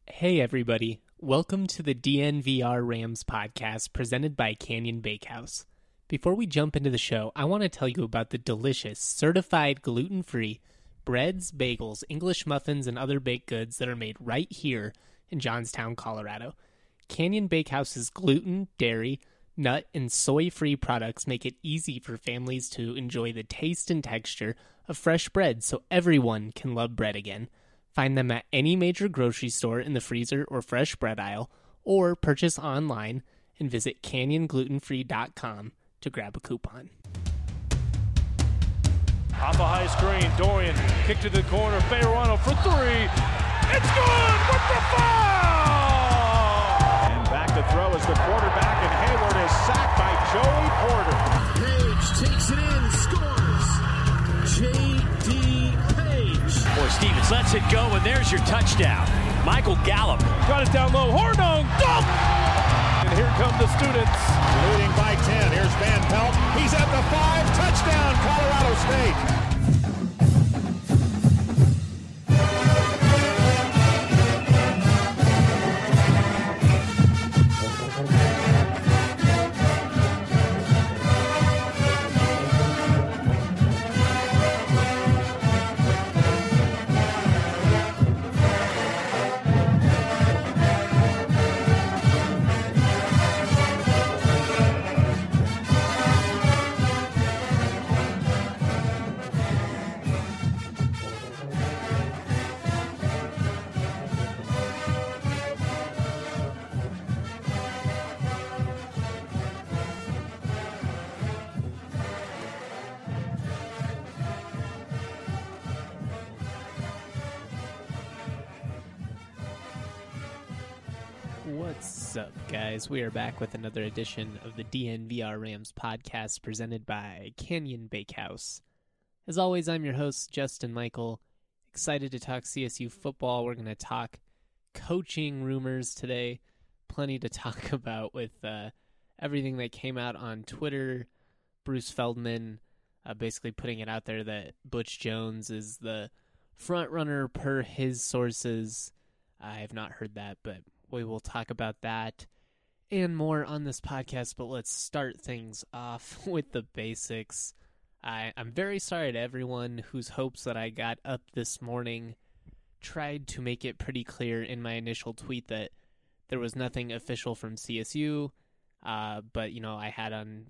Hey everybody, welcome to the DNVR Rams podcast presented by Canyon Bakehouse. Before we jump into the show, I want to tell you about the delicious, certified gluten-free breads, bagels, English muffins, and other baked goods that are made right here in Johnstown, Colorado. Canyon Bakehouse's gluten, dairy, nut, and soy-free products make it easy for families to enjoy the taste and texture of fresh bread so everyone can love bread again. Find them at any major grocery store in the freezer or fresh bread aisle, or purchase online and visit canyonglutenfree.com to grab a coupon. Off a high screen, Dorian, kick to the corner, Fayerano for three. It's good with the foul! And back to throw as the quarterback, and Hayward is sacked by Joey Porter. Page takes it in, scores. J.D. Or Stevens lets it go, and there's your touchdown. Michael Gallup. Got it down low. Hornung. Dunk! And here come the students. Leading by 10. Here's Van Pelt. He's at the 5. Touchdown, Colorado State. What's up, guys? We are back with another edition of the DNVR Rams podcast presented by Canyon Bakehouse. As always, I'm your host, Justin Michael. Excited to talk CSU football. We're going to talk coaching rumors today. Plenty to talk about with everything that came out on Twitter. Bruce Feldman basically putting it out there that Butch Jones is the front runner per his sources. I have not heard that, but we will talk about that and more on this podcast, but let's start things off with the basics. I'm very sorry to everyone whose hopes that I got up this morning. Tried to make it pretty clear in my initial tweet that there was nothing official from CSU, but, I had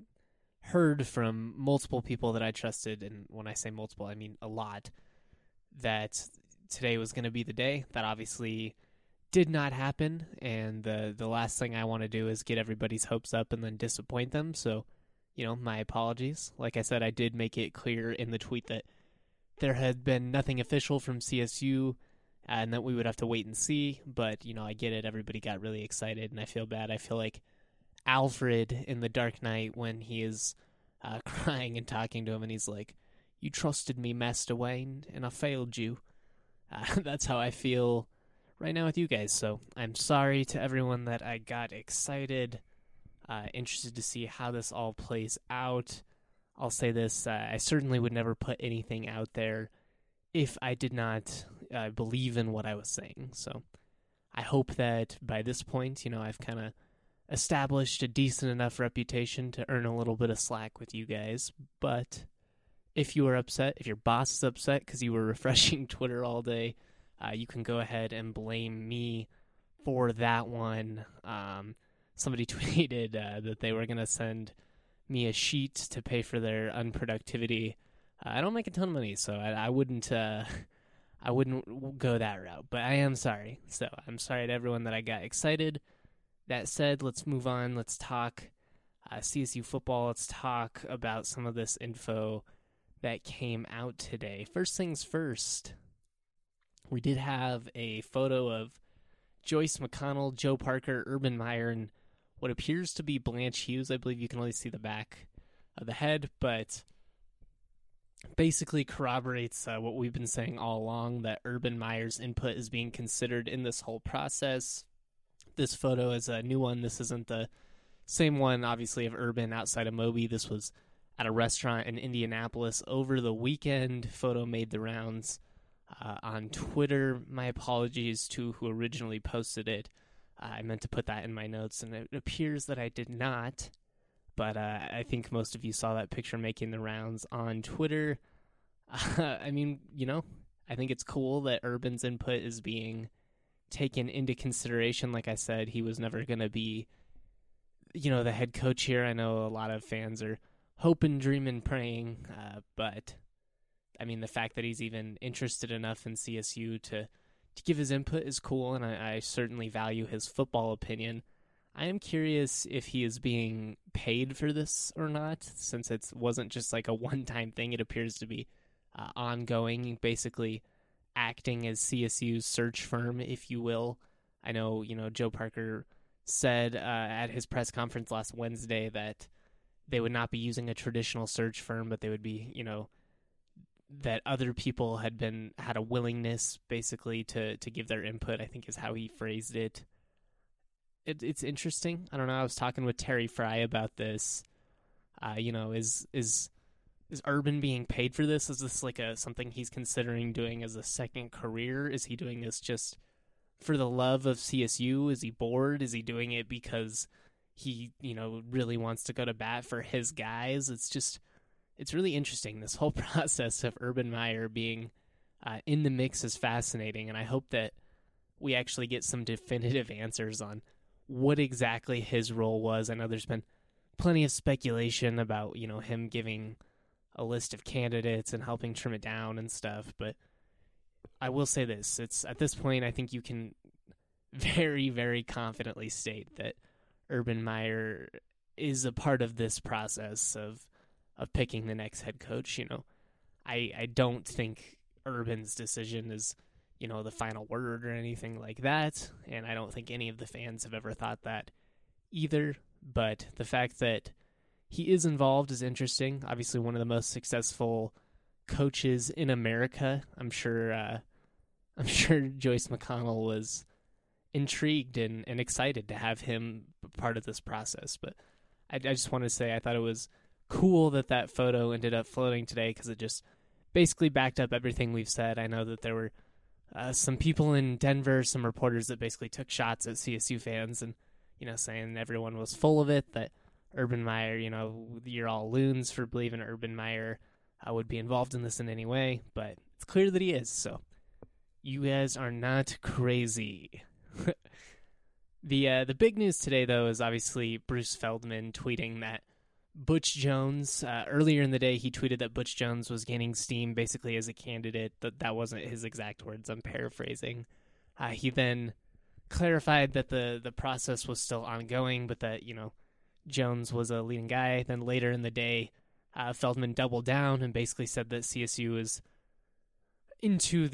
heard from multiple people that I trusted, and when I say multiple, I mean a lot, that today was going to be the day. That obviously did not happen, and the last thing I want to do is get everybody's hopes up and then disappoint them, so, my apologies. Like I said, I did make it clear in the tweet that there had been nothing official from CSU, and that we would have to wait and see, but, I get it, everybody got really excited, and I feel bad. I feel like Alfred in The Dark Knight when he is crying and talking to him, and he's like, "You trusted me, Master Wayne, and I failed you." That's how I feel right now with you guys, so I'm sorry to everyone that I got excited, interested to see how this all plays out. I'll say this, I certainly would never put anything out there if I did not believe in what I was saying, so I hope that by this point, I've kind of established a decent enough reputation to earn a little bit of slack with you guys, but if you are upset, if your boss is upset because you were refreshing Twitter all day, you can go ahead and blame me for that one. Somebody tweeted that they were going to send me a sheet to pay for their unproductivity. I don't make a ton of money, so I wouldn't go that route, but I am sorry. So I'm sorry to everyone that I got excited. That said, let's move on. Let's talk CSU football. Let's talk about some of this info that came out today. First things first. We did have a photo of Joyce McConnell, Joe Parker, Urban Meyer, and what appears to be Blanche Hughes. I believe you can only see the back of the head, but basically corroborates what we've been saying all along, that Urban Meyer's input is being considered in this whole process. This photo is a new one. This isn't the same one, obviously, of Urban outside of Moby. This was at a restaurant in Indianapolis over the weekend. Photo made the rounds on Twitter. My apologies to who originally posted it. I meant to put that in my notes, and it appears that I did not. But I think most of you saw that picture making the rounds on Twitter. I mean, I think it's cool that Urban's input is being taken into consideration. Like I said, he was never going to be, the head coach here. I know a lot of fans are hoping, dreaming, praying. But, I mean, the fact that he's even interested enough in CSU to give his input is cool, and I certainly value his football opinion. I am curious if he is being paid for this or not, since it wasn't just like a one-time thing. It appears to be ongoing, basically acting as CSU's search firm, if you will. I know, Joe Parker said at his press conference last Wednesday that they would not be using a traditional search firm, but they would be, that other people had a willingness, basically, to give their input, I think is how he phrased it. It's interesting. I don't know. I was talking with Terry Fry about this. Is Urban being paid for this? Is this like something he's considering doing as a second career? Is he doing this just for the love of CSU? Is he bored? Is he doing it because he, really wants to go to bat for his guys? It's really interesting. This whole process of Urban Meyer being in the mix is fascinating, and I hope that we actually get some definitive answers on what exactly his role was. I know there's been plenty of speculation about, him giving a list of candidates and helping trim it down and stuff, but I will say this. It's at this point, I think you can very, very confidently state that Urban Meyer is a part of this process of picking the next head coach. I don't think Urban's decision is, the final word or anything like that, and I don't think any of the fans have ever thought that either, but the fact that he is involved is interesting. Obviously one of the most successful coaches in America. I'm sure Joyce McConnell was intrigued and excited to have him part of this process, but I just want to say I thought it was cool that photo ended up floating today, because it just basically backed up everything we've said. I know that there were some people in Denver, some reporters that basically took shots at CSU fans and, saying everyone was full of it, that Urban Meyer, you're all loons for believing Urban Meyer would be involved in this in any way, but it's clear that he is, so you guys are not crazy. The big news today, though, is obviously Bruce Feldman tweeting that Butch Jones, earlier in the day, he tweeted that Butch Jones was gaining steam basically as a candidate. That wasn't his exact words, I'm paraphrasing. He then clarified that the process was still ongoing, but that, Jones was a leading guy. Then later in the day, Feldman doubled down and basically said that CSU is into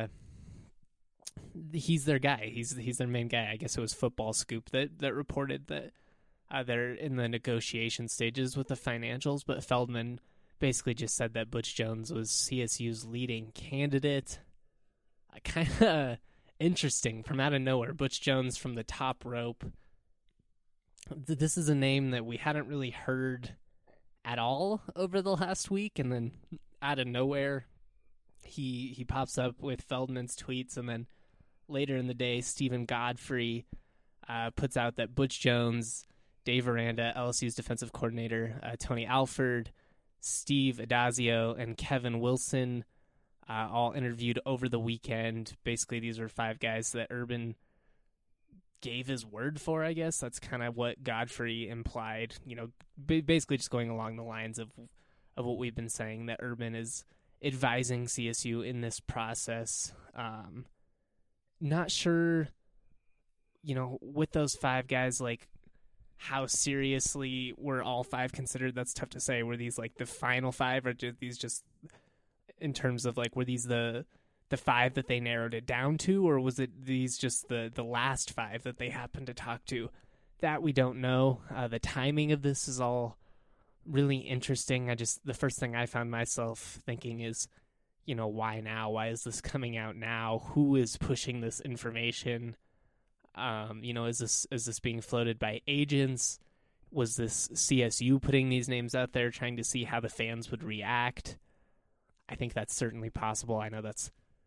he's their guy. He's their main guy. I guess it was Football Scoop that reported that they're in the negotiation stages with the financials, but Feldman basically just said that Butch Jones was CSU's leading candidate. Kind of interesting, from out of nowhere. Butch Jones from the top rope. This is a name that we hadn't really heard at all over the last week, and then out of nowhere, he pops up with Feldman's tweets, and then later in the day, Stephen Godfrey puts out that Butch Jones, Dave Aranda, LSU's defensive coordinator, Tony Alford, Steve Adazio, and Kevin Wilson all interviewed over the weekend. Basically, these were 5 guys that Urban gave his word for, I guess. That's kind of what Godfrey implied, basically just going along the lines of what we've been saying, that Urban is advising CSU in this process. Not sure, with those 5 guys, like, how seriously were all 5 considered? That's tough to say. Were these like the final 5, or did these just, in terms of like, were these the 5 that they narrowed it down to, or was it these just the last 5 that they happened to talk to? That we don't know. The timing of this is all really interesting. The first thing I found myself thinking is, why now? Why is this coming out now? Who is pushing this information? Is this being floated by agents? Was this CSU putting these names out there, trying to see how the fans would react? I think that's certainly possible. I know that's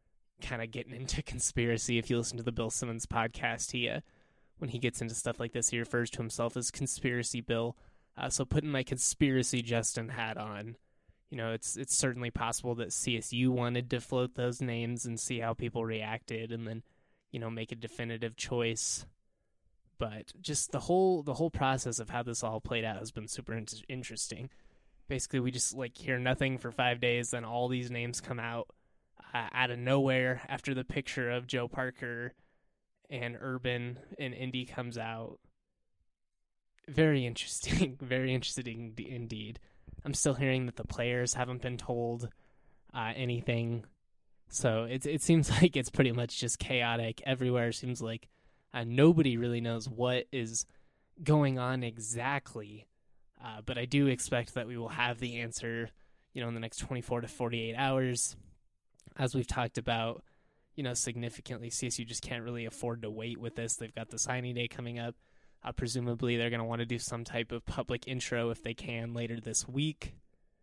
kind of getting into conspiracy. If you listen to the Bill Simmons podcast, when he gets into stuff like this, he refers to himself as Conspiracy Bill. So putting my conspiracy Justin hat on, it's certainly possible that CSU wanted to float those names and see how people reacted, and then, make a definitive choice. But just the whole process of how this all played out has been super interesting. Basically, we just hear nothing for 5 days, then all these names come out out of nowhere after the picture of Joe Parker and Urban in Indy comes out. Very interesting, very interesting indeed. I'm still hearing that the players haven't been told anything, so it seems like it's pretty much just chaotic everywhere. It seems like nobody really knows what is going on exactly, but I do expect that we will have the answer, in the next 24 to 48 hours. As we've talked about, significantly, CSU just can't really afford to wait with this. They've got the signing day coming up. Presumably, they're going to want to do some type of public intro if they can later this week.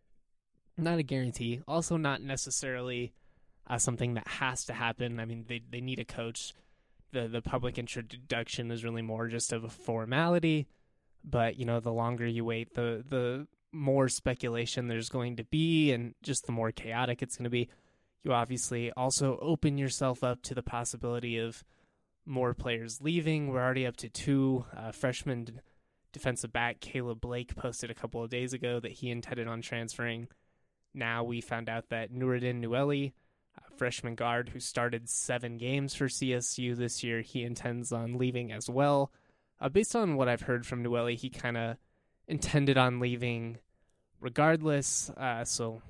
Not a guarantee. Also, not necessarily something that has to happen. I mean, they need a coach. The public introduction is really more just of a formality. But, the longer you wait, the more speculation there's going to be, and just the more chaotic it's going to be. You obviously also open yourself up to the possibility of more players leaving. We're already up to 2. Freshman defensive back Caleb Blake posted a couple of days ago that he intended on transferring. Now we found out that Nuruddin Nueli, freshman guard who started 7 games for CSU this year, he intends on leaving as well. Based on what I've heard from Nueli, he kind of intended on leaving regardless. So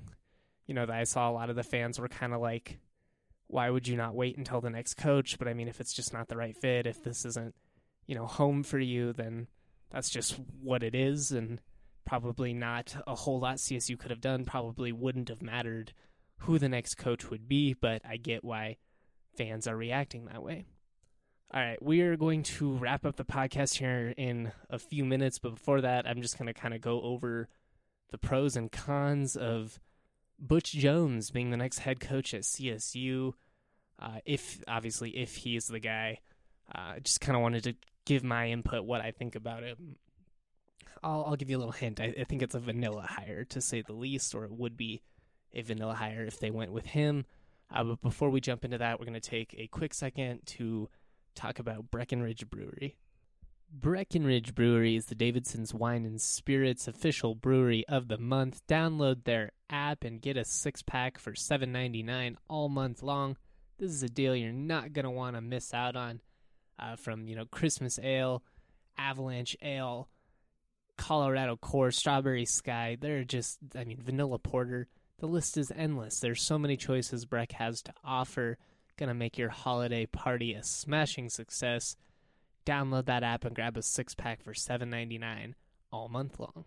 I saw a lot of the fans were kind of like, why would you not wait until the next coach? But I mean, if it's just not the right fit, if this isn't, home for you, then that's just what it is. And probably not a whole lot CSU could have done. Probably wouldn't have mattered who the next coach would be, but I get why fans are reacting that way. All right, we are going to wrap up the podcast here in a few minutes. But before that, I'm just going to kind of go over the pros and cons of Butch Jones being the next head coach at CSU, if he is the guy. Just kind of wanted to give my input, what I think about it. I'll give you a little hint. I think it's a vanilla hire, to say the least, or it would be a vanilla hire if they went with him. But before we jump into that, we're going to take a quick second to talk about Breckenridge Brewery. Breckenridge Brewery is the Davidson's Wine and Spirits official brewery of the month. Download their app and get a 6-pack for $7.99 all month long. This is a deal you're not going to want to miss out on. From, Christmas Ale, Avalanche Ale, Colorado Core, Strawberry Sky. They're just, Vanilla Porter. The list is endless. There's so many choices Breck has to offer. Going to make your holiday party a smashing success. Download that app and grab a 6-pack for $7.99 all month long.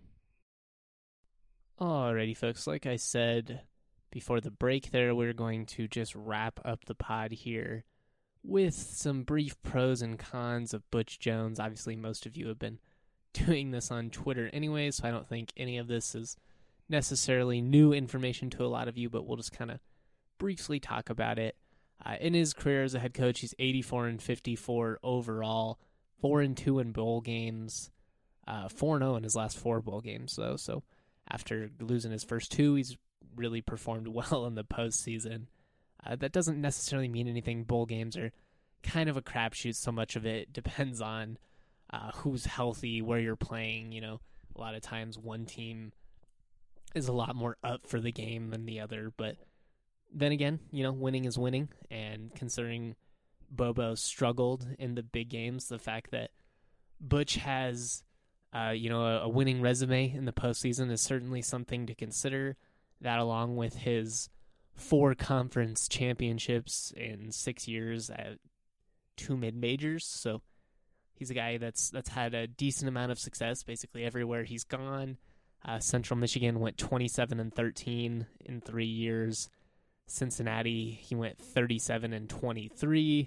Alrighty, folks. Like I said before the break there, we're going to just wrap up the pod here with some brief pros and cons of Butch Jones. Obviously, most of you have been doing this on Twitter anyway, so I don't think any of this is necessarily new information to a lot of you, but we'll just kind of briefly talk about it. In his career as a head coach, he's 84-54 overall, 4-2 in bowl games, 4-0 in his last 4 bowl games, though. So after losing his first 2, he's really performed well in the postseason. That doesn't necessarily mean anything. Bowl games are kind of a crapshoot. So much of it depends on who's healthy, where you're playing. A lot of times one team is a lot more up for the game than the other, but then again, winning is winning, and considering Bobo struggled in the big games, the fact that Butch has, a winning resume in the postseason is certainly something to consider. That, along with his 4 conference championships in 6 years at 2 mid-majors, so he's a guy that's had a decent amount of success basically everywhere he's gone. Central Michigan went 27-13 in 3 years. Cincinnati, he went 37-23.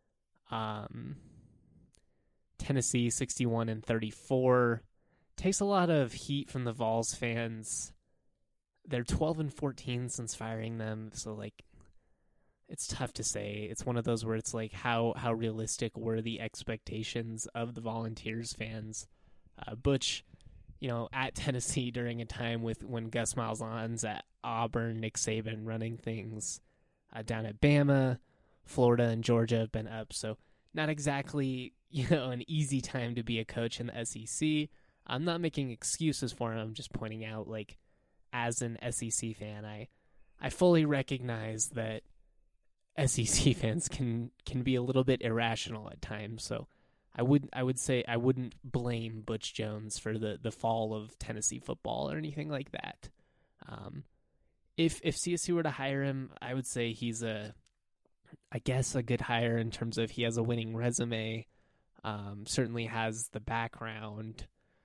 Tennessee, 61-34. Takes a lot of heat from the Vols fans. They're 12-14 since firing them, so it's tough to say. It's one of those where it's like, how realistic were the expectations of the Volunteers fans? Butch, at Tennessee during a time when Gus Malzahn's at Auburn, Nick Saban running things down at Bama, Florida and Georgia have been up. So not exactly, an easy time to be a coach in the SEC. I'm not making excuses for him. I'm just pointing out, like, as an SEC fan, I fully recognize that SEC fans can be a little bit irrational at times. So I would say I wouldn't blame Butch Jones for the fall of Tennessee football or anything like that. If CSU were to hire him, I would say he's a good hire in terms of he has a winning resume, certainly has the background,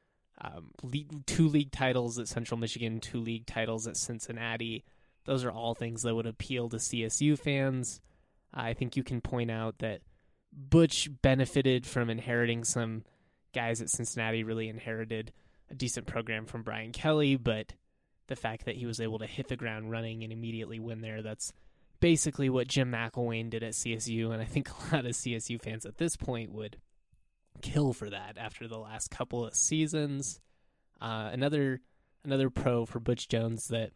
2 league titles at Central Michigan, 2 league titles at Cincinnati. Those are all things that would appeal to CSU fans. I think you can point out that Butch benefited from inheriting some guys at Cincinnati, really inherited a decent program from Brian Kelly, but the fact that he was able to hit the ground running and immediately win there, that's basically what Jim McElwain did at CSU, and I think a lot of CSU fans at this point would kill for that after the last couple of seasons. Another pro for Butch Jones that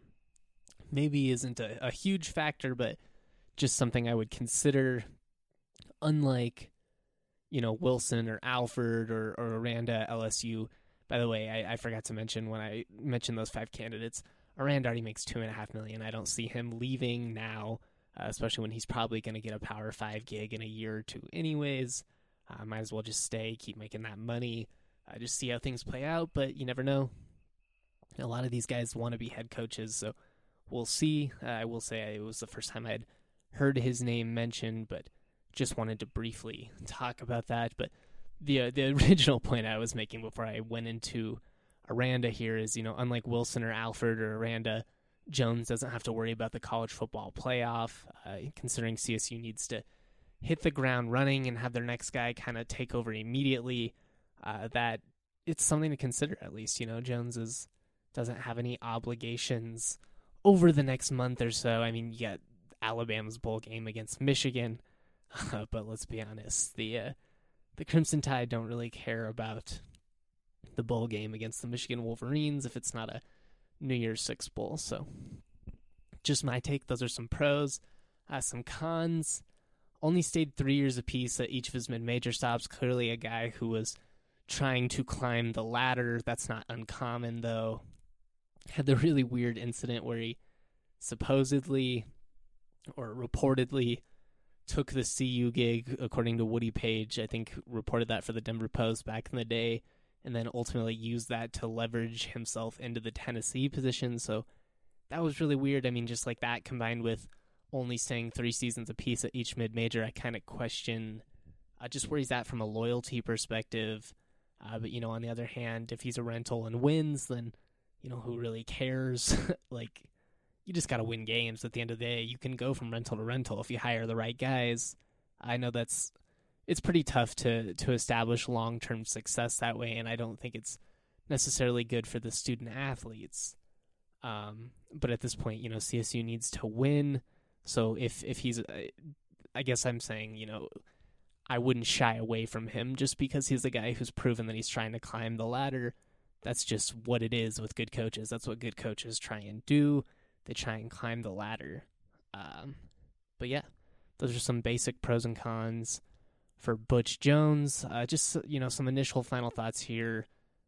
maybe isn't a huge factor, but just something I would consider, unlike, Wilson or Alford or Aranda at LSU. By the way, I forgot to mention when I mentioned those 5 candidates, Aranda already makes $2.5 million. I don't see him leaving now, especially when he's probably going to get a Power 5 gig in a year or two anyways. Might as well just stay, keep making that money, just see how things play out, but you never know. A lot of these guys want to be head coaches, so we'll see. I will say it was the first time I'd heard his name mentioned, but just wanted to briefly talk about that. But the original point I was making before I went into Aranda here is, unlike Wilson or Alford or Aranda, Jones doesn't have to worry about the college football playoff, considering CSU needs to hit the ground running and have their next guy kind of take over immediately. That it's something to consider, at least. Jones doesn't have any obligations over the next month or so. I mean, you got Alabama's bowl game against Michigan, but let's be honest, the Crimson Tide don't really care about the bowl game against the Michigan Wolverines if it's not a New Year's Six bowl. So just my take. Those are some pros. Some cons. Only stayed 3 years apiece at each of his mid-major stops. Clearly a guy who was trying to climb the ladder. That's not uncommon, though. Had the really weird incident where he supposedly or reportedly took the CU gig, according to Woody Page. I think reported that for the Denver Post back in the day, and then ultimately used that to leverage himself into the Tennessee position. So that was really weird. I mean, just like that combined with only staying 3 seasons apiece at each mid-major, I kind of question just where he's at from a loyalty perspective. But, on the other hand, if he's a rental and wins, then, who really cares? Like, you just got to win games at the end of the day. You can go from rental to rental if you hire the right guys. I know it's pretty tough to establish long-term success that way, and I don't think it's necessarily good for the student athletes. But at this point, CSU needs to win. So if he's, I guess I'm saying, I wouldn't shy away from him just because he's a guy who's proven that he's trying to climb the ladder. That's just what it is with good coaches. That's what good coaches try and do. They try and climb the ladder. But yeah, those are some basic pros and cons for Butch Jones. Just, some initial final thoughts here.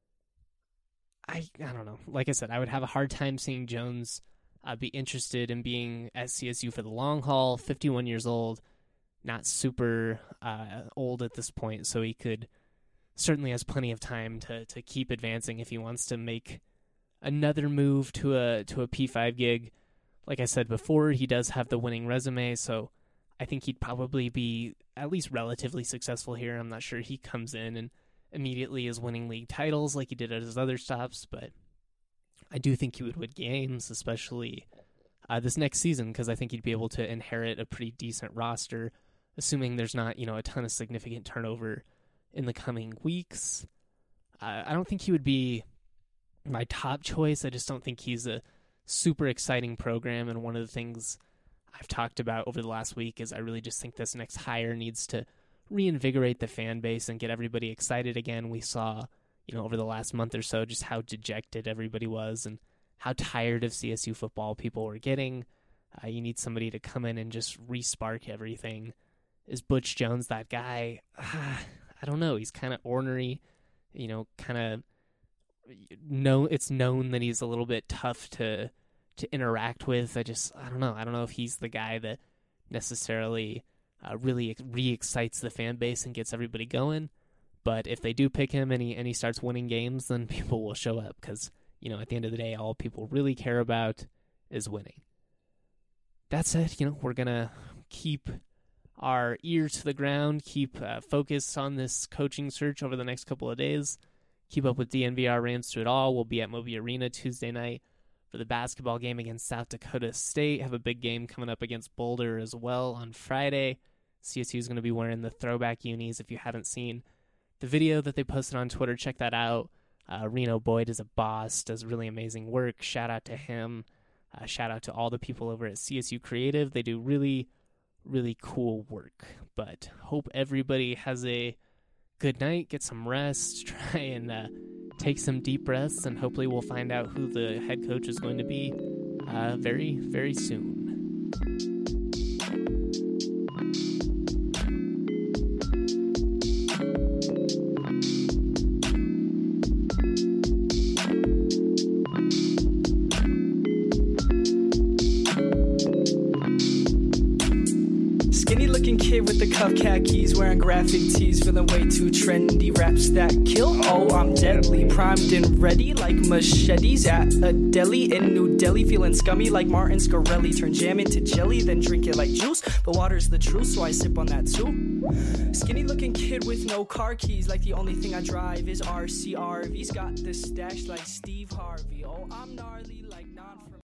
I don't know. Like I said, I would have a hard time seeing Jones be interested in being at CSU for the long haul. 51 years old, not super old at this point, so he certainly has plenty of time to keep advancing if he wants to make another move to a P5 gig. Like I said before, he does have the winning resume, so I think he'd probably be at least relatively successful here. I'm not sure he comes in and immediately is winning league titles like he did at his other stops, but I do think he would win games, especially this next season, because I think he'd be able to inherit a pretty decent roster, assuming there's not, a ton of significant turnover in the coming weeks. I don't think he would be my top choice. I just don't think he's a super exciting program, and one of the things I've talked about over the last week is I really just think this next hire needs to reinvigorate the fan base and get everybody excited again. We saw, over the last month or so, just how dejected everybody was and how tired of CSU football people were getting. You need somebody to come in and just re-spark everything. Is Butch Jones that guy? I don't know. He's kind of ornery, it's known that he's a little bit tough to interact with. I don't know. I don't know if he's the guy that necessarily really re-excites the fan base and gets everybody going. But if they do pick him and he starts winning games, then people will show up because, at the end of the day, all people really care about is winning. That said, we're going to keep our ear to the ground, keep focused on this coaching search over the next couple of days, keep up with DNVR Rams through it all. We'll be at Moby Arena Tuesday night for the basketball game against South Dakota State. Have a big game coming up against Boulder as well on Friday. CSU is going to be wearing the throwback unis. If you haven't seen the video that they posted on Twitter, check that out. Reno Boyd is a boss, does really amazing work. Shout out to him. Shout out to all the people over at CSU Creative. They do really, really cool work. But hope everybody has a good night, get some rest, try and take some deep breaths, and hopefully we'll find out who the head coach is going to be very, very soon. Kid with the cuff khakis, wearing graphic tees, feeling way too trendy. Raps that kill, oh I'm deadly, primed and ready like machetes at a deli in New Delhi. Feeling scummy like Martin Scarelli, turn jam into jelly, then drink it like juice. But water's the truth, so I sip on that too. Skinny looking kid with no car keys, like the only thing I drive is RCRV's got the stash like Steve Harvey. Oh I'm gnarly.